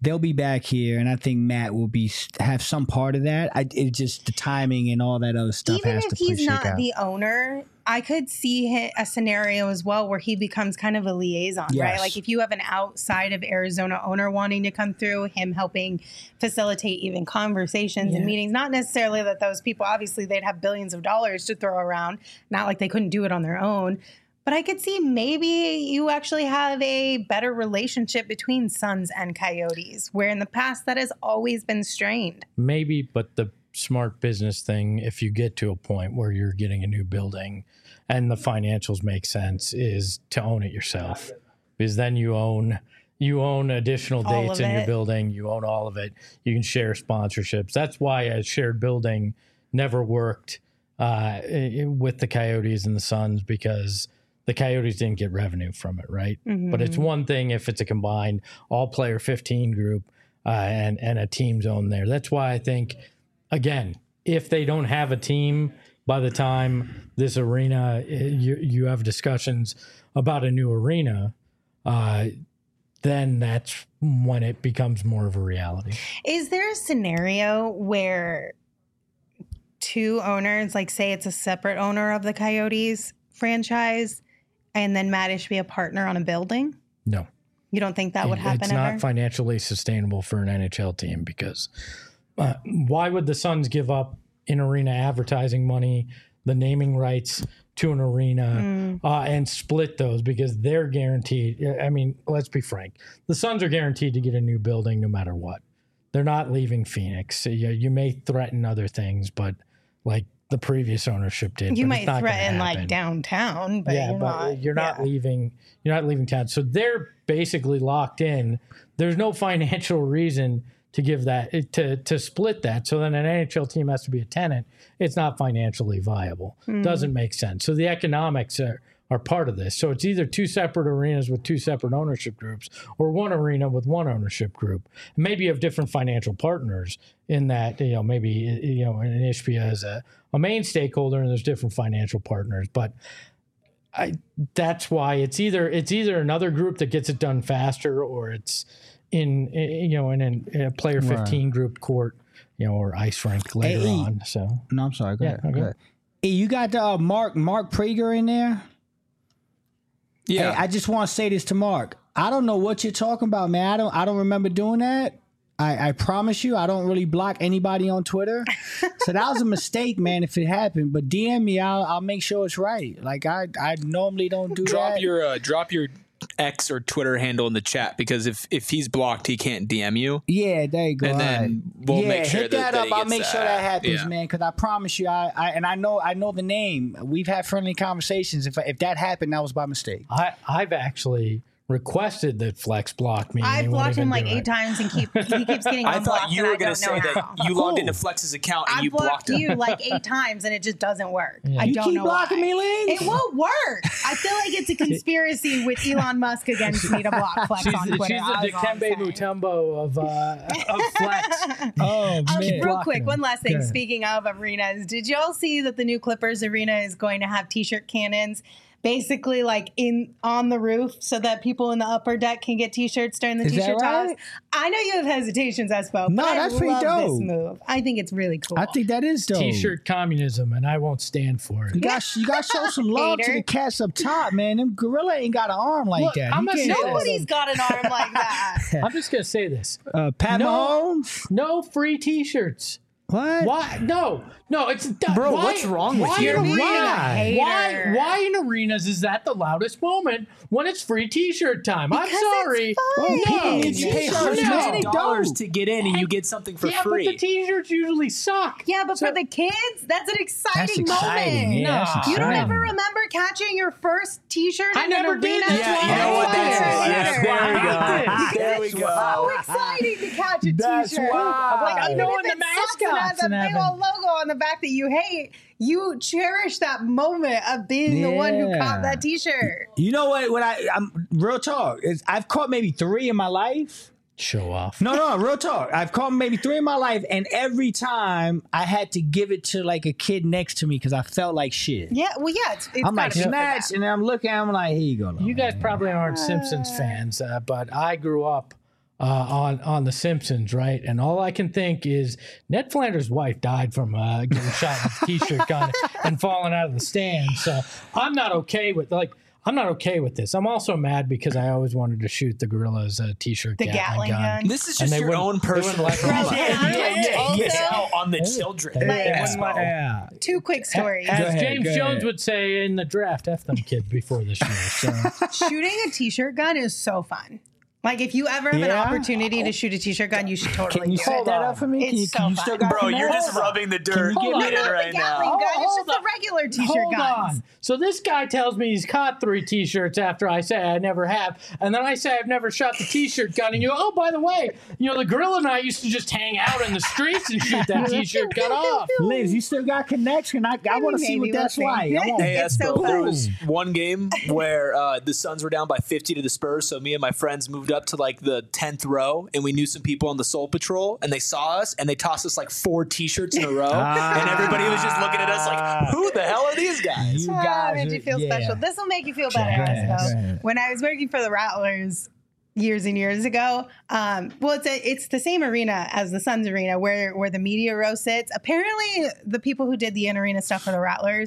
they'll be back here, and I think Matt will be have some part of that. I, it's just the timing and all that other stuff. Even has if to play, he's shake not out. the owner, I could see hi- a scenario as well where he becomes kind of a liaison, right? Yes. Like if you have an outside of Arizona owner wanting to come through, him helping facilitate even conversations Yeah. and meetings. Not necessarily that those people, obviously, they'd have billions of dollars to throw around. Not like they couldn't do it on their own. But I could see maybe you actually have a better relationship between Suns and Coyotes, where in the past that has always been strained. Maybe, but the smart business thing, if you get to a point where you're getting a new building and the financials make sense, is to own it yourself, because then you own you own additional All dates of in your it. building. You own all of it. You can share sponsorships. That's why a shared building never worked uh, i- with the Coyotes and the Suns, because the Coyotes didn't get revenue from it, right? But it's one thing if it's a combined all-player fifteen group uh, and and a team zone there. That's why I think, again, if they don't have a team by the time this arena, uh, you you have discussions about a new arena, uh, then that's when it becomes more of a reality. Is there a scenario where two owners, like say it's a separate owner of the Coyotes franchise, and then Matt should be a partner on a building? No. You don't think that would happen It's ever? not financially sustainable for an N H L team, because uh, why would the Suns give up in arena advertising money, the naming rights to an arena, Mm. uh, and split those? Because they're guaranteed. I mean, let's be frank. The Suns are guaranteed to get a new building no matter what. They're not leaving Phoenix. You, you may threaten other things, but like the previous ownership did. You but might it's not gonna threaten like happen. downtown, but yeah, you're but not. you're not yeah. leaving. You're not leaving town. So they're basically locked in. There's no financial reason to give that to to split that. So then an N H L team has to be a tenant. It's not financially viable. Doesn't make sense. So the economics are are part of this. So it's either two separate arenas with two separate ownership groups, or one arena with one ownership group. Maybe you have different financial partners in that, you know, maybe, you know, an Ishbia is a, a main stakeholder and there's different financial partners. But I, that's why it's either it's either another group that gets it done faster, or it's in, you know, in, in a player fifteen group court, you know, or ice rink later Hey, on. So No, I'm sorry. Go Yeah, ahead. okay. Go ahead. Hey, you got uh, Mark Mark Prager in there? Yeah. Hey, I just want to say this to Mark. I don't know what you're talking about, man. I don't I don't remember doing that. I, I promise you, I don't really block anybody on Twitter. So that was a mistake, man, if it happened. But D M me, I'll I'll make sure it's right. Like I I normally don't do drop that. your uh, drop your X or Twitter handle in the chat, because if if he's blocked, he can't D M you. Yeah, there you go. And All then right. we'll yeah, make sure hit that- that, that up. he I'll gets make sure that. that happens, Yeah. man. Because I promise you, I, I and I know I know the name. We've had friendly conversations. If if that happened, that was by mistake. I I've actually requested that Flex block me. and I've he won't blocked even him like do eight it. times and keep he keeps getting I unblocked. thought you and were I going to don't say know that how. you logged Cool. into Flex's account and I've you blocked blocked him. you like eight times and it just doesn't work. I You don't keep know blocking why. me, Lynn? It won't work. I feel like it's a conspiracy with Elon Musk against me to block Flex She's, on the- Twitter. she's the That's all I'm Dikembe saying. Mutombo of uh, of Flex. Oh Um, man. real blocking quick, him. one last thing. Okay. Speaking of arenas, did y'all see that the new Clippers arena is going to have T-shirt cannons, basically like in on the roof, so that people in the upper deck can get T-shirts during the Is that T-shirt right? toss? I know you have hesitations, Espo, No, but I that's pretty love dope. this move. I think it's really cool. I think that is dope. T-shirt communism, and I won't stand for it. You got you got to show some love to Hater. the cats up top, man. Them gorilla ain't got an arm like Look, that. I'm You not can't saying say Nobody's got an arm like that. I'm just gonna say this: Uh, Pat No. Mahomes. no free T-shirts. What? Why? No, no. It's Bro, why, what's wrong with why you? in You're being a arenas- Why? hater. Why in arenas is that the loudest moment when it's free T-shirt time? I'm Because it's sorry. fun. Well, people No, need You pay T-shirts, hundreds man. of They dollars don't. to get in, and you get something for yeah, free. but the T-shirts usually suck. Yeah, but So- for the kids, that's an exciting, That's exciting. moment. Yeah, that's You don't exciting. ever remember catching your first T-shirt I in never an did. arena? That's yeah, why you know I what? hate That's it. it. That's Yes, why there we I hate go. it. There we So go. exciting to catch a That's T-shirt. why. Like, I even know if in it the sucks and mascots has a and big having- old logo on the back that you hate, you cherish that moment of being the one who Yeah. caught that T-shirt. You know what? What I I'm real talk is I've caught maybe three in my life. Show off. No, no, real talk. I've caught maybe three in my life, and every time I had to give it to like a kid next to me because I felt like shit. Yeah, well, yeah, it's, it's I'm like gotta be for snatch, that. and I'm looking. I'm like, here you go. You guys probably aren't Simpsons fans, uh, but I grew up uh, on on The Simpsons, right? And all I can think is Ned Flanders' wife died from uh, getting shot with a T-shirt gun and falling out of the stand. So I'm not okay with like. I'm not okay with this. I'm also mad because I always wanted to shoot the Gorillas a T-shirt The Gatling gun. gun. This is just your own personal trauma. Yeah, yeah, yeah, yeah. On the children. Yeah. Yeah. Two quick stories. As Go ahead, James go Jones ahead. would say in the draft, F them kids before this year. So. Shooting a T-shirt gun is so fun. Like, if you ever have Yeah? an opportunity to shoot a T-shirt gun, you should totally Can you do set it. that up for me? It's Can you, so can you fun. still got Bro, the you're mask? just rubbing the dirt Hold in on. it No, not right the Gatling now. gun. It's Hold just on. a regular T-shirt Hold guns. on. So this guy tells me he's caught three T-shirts after I say I never have, and then I say I've never shot the T-shirt gun, and you go, oh, by the way, you know the Gorilla and I used to just hang out in the streets and shoot that T-shirt gun off. Liz, you still got connection. I, I want to see Maybe what we'll that's see. like. I want, Hey, It's so Espo, there fun. was one game where uh, the Suns were down by fifty to the Spurs, so me and my friends moved up to like the tenth row, and we knew some people on the Soul Patrol, and they saw us, and they tossed us like four T-shirts in a row, and everybody was just looking at us like, who the hell are these guys? you Ah, guys made are- you feel yeah. special. This will make you feel better, Go ahead, Espo. go ahead. When I was working for the Rattlers years and years ago, um, well, it's a, it's the same arena as the Suns arena where where the media row sits. Apparently, the people who did the in arena stuff for the Rattlers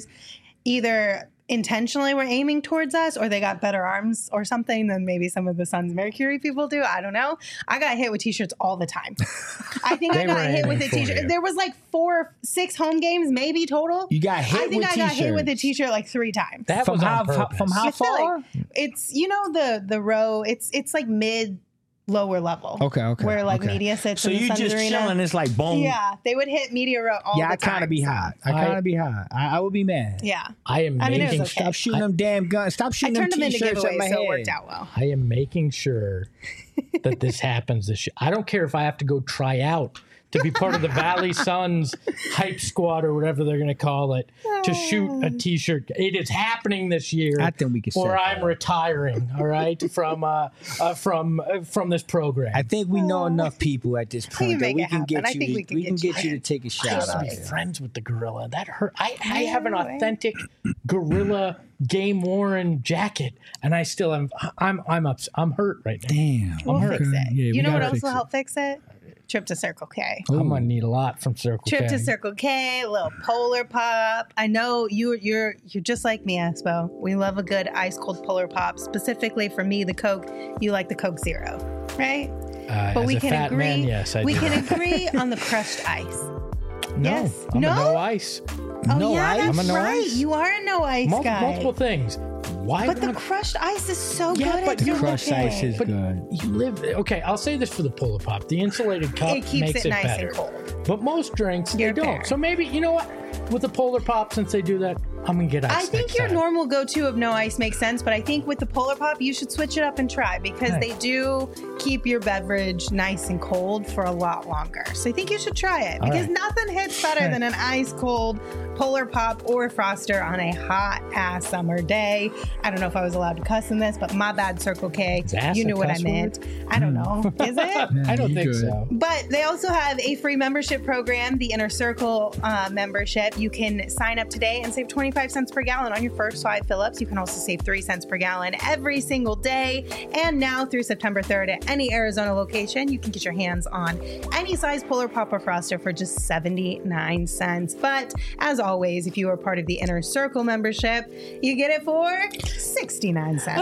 either intentionally were aiming towards us or they got better arms or something than maybe some of the Suns Mercury people do. I don't know. I got hit with T-shirts all the time. I think They I were got hit with aiming a for T-shirt. you. There was like four, six home games maybe total. You got hit I think with I got hit with a T-shirts. T-shirt like three times. That From was how, on purpose. from how I feel far? like it's you know the the row. It's it's like mid lower level. Okay, okay, Where like okay. media sits So in the you Suns just arena. chilling. It's like boom. Yeah, they would hit media row all Yeah, the I time. kind of be so- hot. I I- kind of be hot. I, I would be mad. Yeah, I am I mean, it making was okay. Stop shooting them damn guns. Stop I shooting them turned them into T-shirts at my giveaways, so it head. worked out well. I am making sure that this happens this year. I don't care if I have to go try out to be part of the Valley Suns hype squad or whatever they're going to call it to shoot a T-shirt. It is happening this year. I think we can Or set I'm that up. retiring. All right, from uh, uh from uh, from this program. I think we know enough people at this point that make we it can happen. get I you. think To, we can we can get you get you to in. take a I shot used to out be there. friends with the gorilla. That hurt. I, I have an know, right? authentic gorilla game worn jacket, and I still am. I'm I'm up. I'm hurt right now. Damn. We'll hurt. fix it. Yeah, we you know what gotta else fix will it. help fix it? Trip to Circle K. I'm gonna need a lot from Circle Trip K. to Circle K, a little Polar Pop. I know you're you're you're just like me, Espo. We love a good ice cold Polar Pop. Specifically for me, the Coke. You like the Coke Zero, right? Uh, But as we a can fat agree. man, yes, I we do. can agree on the crushed ice. No, Yes. I'm No? a no ice. Oh No yeah, ice? that's I'm a no right. ice. You are a no ice Mul- guy. multiple things. Why? But the would- crushed ice is so Yeah, good. but at the Circle crushed K. ice is But good. you live. Okay, I'll say this for the Polar Pop: the insulated cup It keeps makes it nice better. and cold. But most drinks You're they don't. fair. So maybe you know what? With the Polar Pop, since they do that, I'm gonna get ice. I think next your time. normal go-to of no ice makes sense, but I think with the Polar Pop, you should switch it up and try because Hey. they do keep your beverage nice and cold for a lot longer. So I think you should try it All because right. nothing hits better Hey. than an ice cold Polar Pop or Froster on a hot ass summer day. I don't know if I was allowed to cuss in this, but my bad, Circle K. Is ass You a knew what I cuss meant. I don't know. Is it? I don't you think good. so. But they also have a free membership program, the Inner Circle uh, membership. You can sign up today and save twenty-five cents per gallon on your first five fill-ups. You can also save three cents per gallon every single day. And now through September third at any Arizona location, you can get your hands on any size Polar Pop or Froster for just seventy-nine cents. But as always, if you are part of the Inner Circle membership, you get it for sixty-nine cents.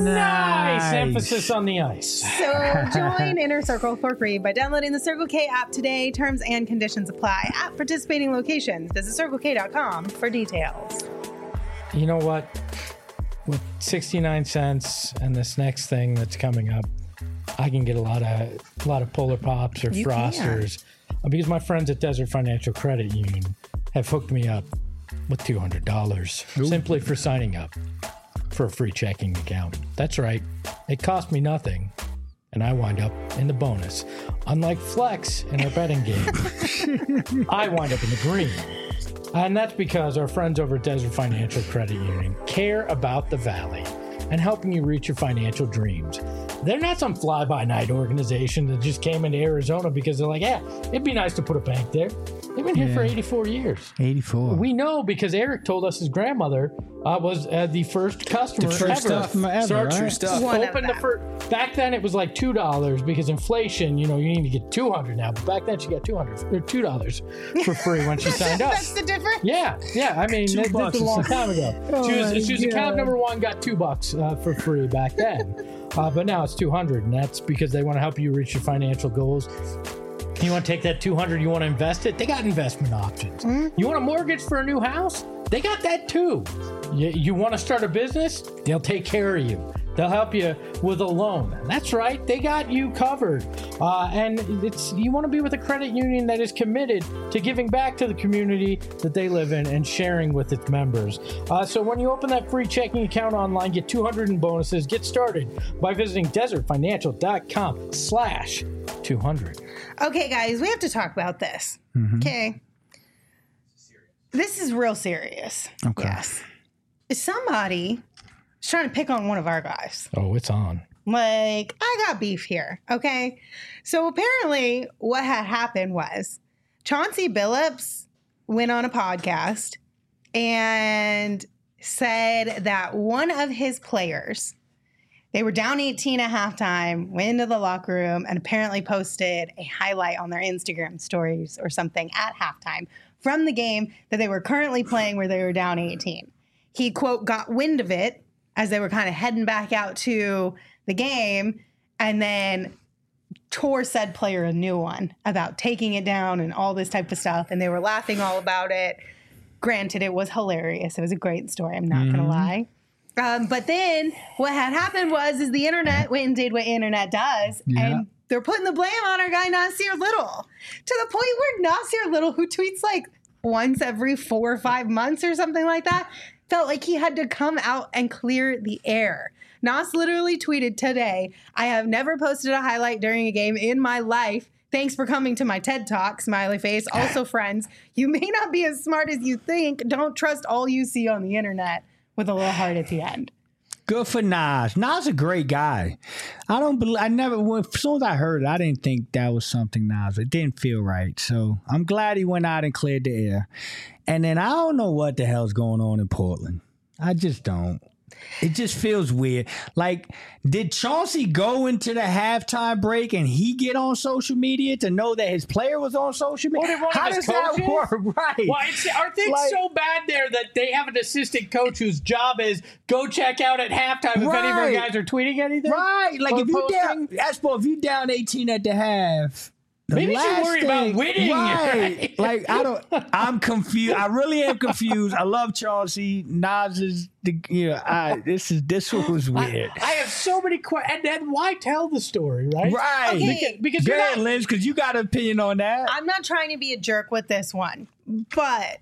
Nice emphasis on the ice. So join Inner Circle for free by downloading the Circle K app today. Terms and conditions apply at participating locations. Visit circle k dot com for details. You know what? With sixty-nine cents and this next thing that's coming up, I can get a lot of a lot of Polar Pops or You Frosters uh, because my friends at Desert Financial Credit Union have hooked me up with two hundred dollars simply for signing up for a free checking account. That's right. It cost me nothing. And I wind up in the bonus. Unlike Flex in our betting game, I wind up in the green. And that's because our friends over at Desert Financial Credit Union care about the Valley and helping you reach your financial dreams. They're not some fly-by-night organization that just came into Arizona because they're like, yeah, it'd be nice to put a bank there. They've been here Yeah. for eighty-four years. eighty-four. We know because Eric told us his grandmother uh, was uh, the first customer The first ever. customer ever, Start- right? True stuff. One of Open the them. first. Back then it was like two dollars because inflation. You know, you need to get two hundred now, but back then she got two hundred or two dollars for free when she signed up. That's the difference. Yeah, yeah. I mean, Two that, that's bucks a long is- time ago. she was, my she was account God. number one, got two bucks uh, for free back then. uh, but now it's two hundred, and that's because they want to help you reach your financial goals. You want to take that two hundred, you want to invest it? They got investment options. You want a mortgage for a new house? They got that too. You, you want to start a business? They'll take care of you. They'll help you with a loan. That's right. They got you covered. Uh, and it's you want to be with a credit union that is committed to giving back to the community that they live in and sharing with its members. Uh, so when you open that free checking account online, get two hundred in bonuses. Get started by visiting desertfinancial.com slash 200. Okay, guys, we have to talk about this. Okay. This is real serious. Okay. Yes. Somebody is trying to pick on one of our guys. Oh, it's on. Like, I got beef here. Okay. So apparently, what had happened was Chauncey Billups went on a podcast and said that one of his players, they were down eighteen at halftime, went into the locker room, and apparently posted a highlight on their Instagram stories or something at halftime from the game that they were currently playing where they were down eighteen. He, quote, got wind of it as they were kind of heading back out to the game and then tore said player a new one about taking it down and all this type of stuff. And they were laughing all about it. Granted, it was hilarious. It was a great story. I'm not going to lie. Um, but then what had happened was is the internet went and did what internet does. Yeah. And they're putting the blame on our guy Nasir Little to the point where Nasir Little, who tweets like once every four or five months or something like that, felt like he had to come out and clear the air. Nas literally tweeted today, I have never posted a highlight during a game in my life. Thanks for coming to my TED Talk, smiley face. Also, friends, you may not be as smart as you think. Don't trust all you see on the internet, with a little heart at the end. Good for Nas. Nas a great guy. I don't believe. I never. When, as soon as I heard it, I didn't think that was something Nas. It didn't feel right. So I'm glad he went out and cleared the air. And then I don't know what the hell's going on in Portland. I just don't. It just feels weird. Like, did Chauncey go into the halftime break and he get on social media to know that his player was on social media? What, did one of How his does that coaches? work? Right. Well, it's, are things Like- so bad there that they have an assistant coach whose job is go check out at halftime if any of our Right. guys are tweeting anything? Right. Like, Or if you posting? down, Espo, if you down eighteen at the half. the Maybe you should last worry about thing- winning, Right. right? Like, I don't, I'm confused. I really am confused. I love Chauncey. Nas is, the, you know, I, this is, this was weird. I have so many questions. And then why tell the story, right? Right. Okay. Because, because Go you're ahead, not, Liz, because you got an opinion on that. I'm not trying to be a jerk with this one, but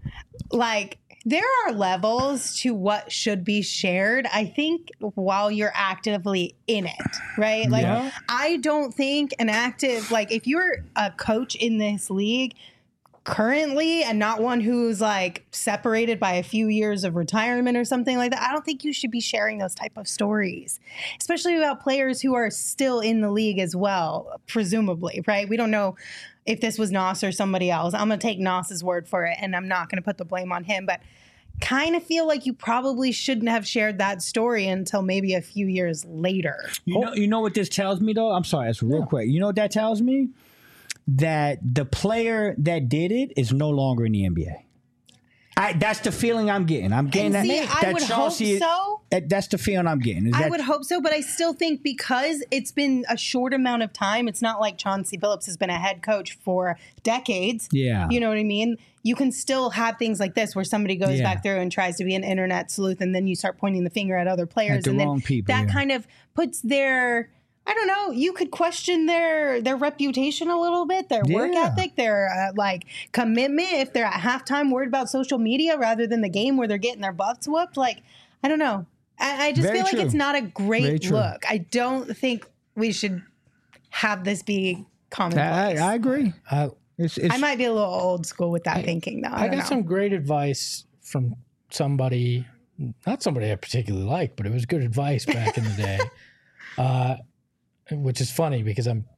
like there are levels to what should be shared, I think, while you're actively in it, right? Like, Yeah. I don't think an active, like, if you're a coach in this league currently and not one who's like separated by a few years of retirement or something like that, I don't think you should be sharing those type of stories, especially about players who are still in the league as well, presumably, right? We don't know if this was Nas or somebody else. I'm going to take Nas's word for it, and I'm not going to put the blame on him, but kind of feel like you probably shouldn't have shared that story until maybe a few years later. You know, you know what this tells me, though? I'm sorry, that's real quick. You know what that tells me? That the player that did it is no longer in the N B A. I, that's the feeling I'm getting. I'm getting And see, that. I that would Chauncey, hope so. That, that's the feeling I'm getting. Is I that, would hope so, but I still think because it's been a short amount of time, it's not like Chauncey Billups has been a head coach for decades. Yeah. You know what I mean? You can still have things like this where somebody goes Yeah. back through and tries to be an internet sleuth, and then you start pointing the finger at other players. At the and wrong then people, that yeah. kind of puts their, I don't know, you could question their their reputation a little bit, their work Yeah. ethic, their uh, like commitment if they're at halftime worried about social media rather than the game where they're getting their butts whooped. Like, I don't know. I, I just Very feel like true. it's not a Very great true. look. I don't think we should have this be I, commonplace. I I, agree. uh, It's, it's, might be a little old school with that thinking, though. I, I don't got know. some great advice from somebody, not somebody I particularly like, but it was good advice back in the day. Uh, which is funny because I'm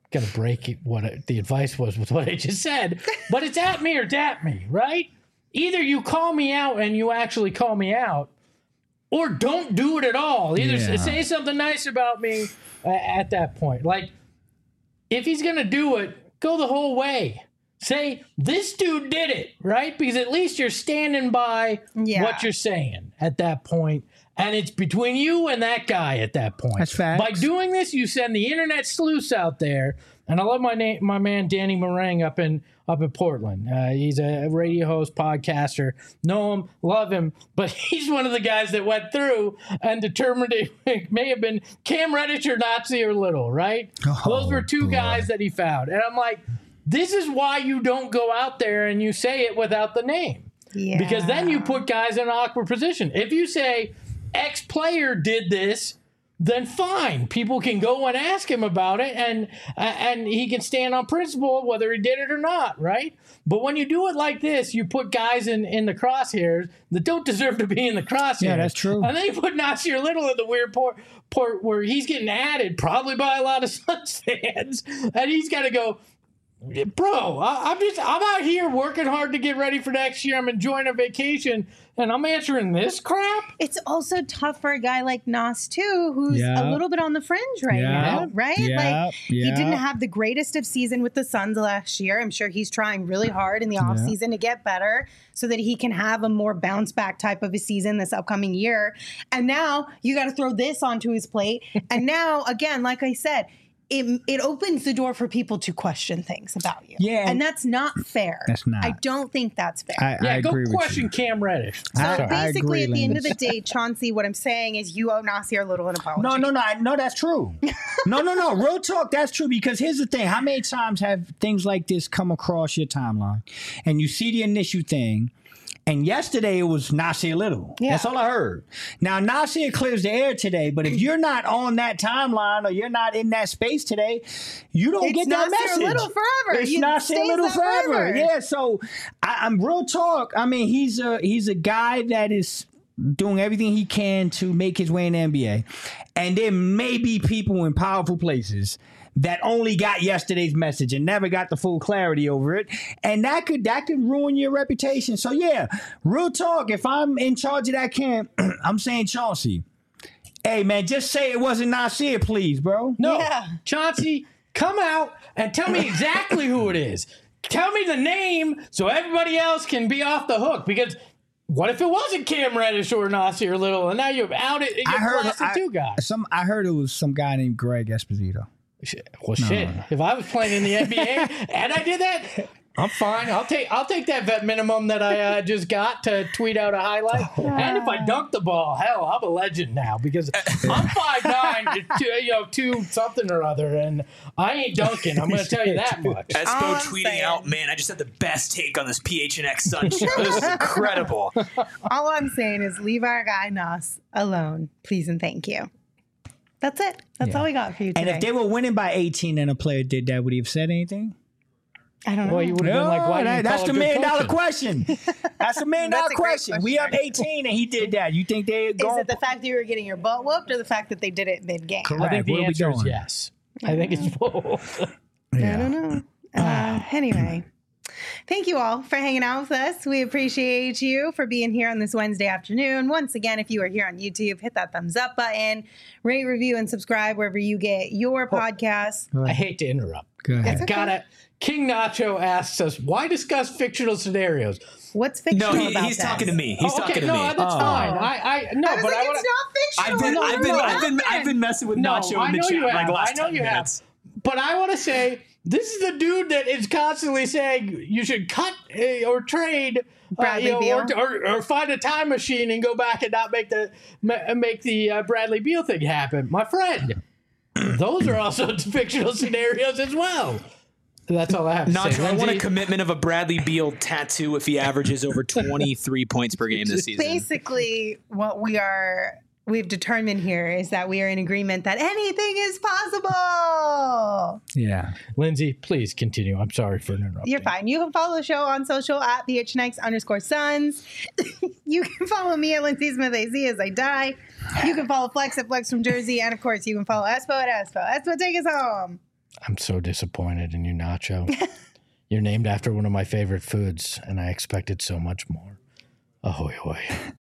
gonna break it, what I, the advice was with what I just said, but it's at me or dap me, right? Either you call me out and you actually call me out, or don't do it at all. Either Yeah. say something nice about me uh, at that point. Like, if he's gonna do it, go the whole way. Say, this dude did it, right? Because at least you're standing by Yeah. what you're saying at that point. And it's between you and that guy at that point. That's facts. By doing this, you send the internet sleuths out there. And I love my name, my man Danny Meringue up in up in Portland. Uh, he's a radio host, podcaster. Know him, love him, but he's one of the guys that went through and determined it may have been Cam Reddish or Nazi or Little, right? Oh, Those were two boy. guys that he found. And I'm like, this is why you don't go out there and you say it without the name. Yeah. Because then you put guys in an awkward position. If you say X player did this, then fine. People can go and ask him about it, and uh, and he can stand on principle whether he did it or not, right? But when you do it like this, you put guys in, in the crosshairs that don't deserve to be in the crosshairs. Yeah, that's true. And then you put Nasir Little in the weird port, port where he's getting added, probably by a lot of Suns fans, and he's got to go, bro, I, I'm just I'm out here working hard to get ready for next year. I'm enjoying a vacation, and I'm answering this crap. It's also tough for a guy like Nas too, who's Yeah. a little bit on the fringe right Yeah. now, right? Yeah. Like he Yeah. didn't have the greatest of season with the Suns last year. I'm sure he's trying really hard in the offseason to get better so that he can have a more bounce back type of a season this upcoming year. And now you got to throw this onto his plate. And now, again, like I said, It, it opens the door for people to question things about you. Yeah. And that's not fair. That's not. I don't think that's fair. I, Yeah, I go agree with question you. Cam Reddish. so I- I basically, agree, at the end of the Linda. day, Chauncey, what I'm saying is you owe Nasir Little an apology. No, no, no, I- no. That's true. no, no, no. Real talk. That's true. Because here's the thing: how many times have things like this come across your timeline, and you see the initial thing, and yesterday it was Nasir Little. Yeah. That's all I heard. Now Nasir clears the air today, but if you're not on that timeline or you're not in that space today, you don't It's get that Nasir message. Little forever. It's You- Nasir stays Little that forever. forever. Yeah. So I, I'm real talk. I mean, he's a he's a guy that is doing everything he can to make his way in the N B A. And there may be people in powerful places that only got yesterday's message and never got the full clarity over it. And that could that could ruin your reputation. So yeah, real talk, if I'm in charge of that camp, I'm saying Chauncey, hey man, just say it wasn't Nasir, please, bro. No, Yeah. Chauncey, come out and tell me exactly who it is. Tell me the name so everybody else can be off the hook. Because what if it wasn't Cam Reddish or Nasir Little, and now you're out it? I You're heard blasting I, two guys. some I heard it was some guy named Greg Esposito. Well, shit. If I was playing in the N B A and I did that, I'm fine. I'll take I'll take that vet minimum that I uh, just got to tweet out a highlight. And if I dunk the ball, hell, I'm a legend now because I'm five nine, two, you know, two something or other, and I ain't dunking. I'm going to tell you that much. Espo All I'm tweeting saying- out, man, I just had the best take on this P H N X Sun show. This is incredible. All I'm saying is leave our guy Nas alone, please and thank you. That's it. That's all we got for you And today. if they were winning by eighteen and a player did that, would he have said anything? I don't know. Well, you would have been like, why that- didn't you that's call the it good million dollar coaching? question. That's the million That's dollar a great question. We up question. eighteen and he did that. You think they Is go? it the fact that you were getting your butt whooped or the fact that they did it mid-game? Correct. I think the Where we answer is going? yes. I think it's both. I don't know. Uh, anyway, thank you all for hanging out with us. We appreciate you for being here on this Wednesday afternoon. Once again, if you are here on YouTube, hit that thumbs up button, rate, review, and subscribe wherever you get your podcasts. I hate to interrupt. Go ahead. I gotta. King Nacho asks us, why discuss fictional scenarios? What's fictional No, he, about he's this? talking to me. He's Oh, okay, talking to no, me. that's fine. I, I no, I was but like, I want it's not fictional. I've been, No, I've no, been, no, I've been, no. I've been messing with No, Nacho I in the know chat you like have. last I know ten you minutes. have. But I want to say, this is the dude that is constantly saying you should cut uh, or trade, uh, Bradley you know, Beal. or, or, or find a time machine and go back and not make the ma- make the uh, Bradley Beal thing happen, my friend. Those are also fictional scenarios as well. That's all I have to say. Nacho, I want a Lindsay, commitment of a Bradley Beal tattoo if he averages over twenty-three points per game this season. Basically, what we are we've determined here is that we are in agreement that anything is possible. Yeah. Lindsay, please continue. I'm sorry for interrupting. You're fine. You can follow the show on social at P H N X underscore Suns. You can follow me at Lindsay Smith A Z as I die. You can follow Flex at Flex from Jersey. And of course, you can follow Espo at Espo. Espo, take us home. I'm so disappointed in you, Nacho. You're named after one of my favorite foods, and I expected so much more. Ahoy, hoy.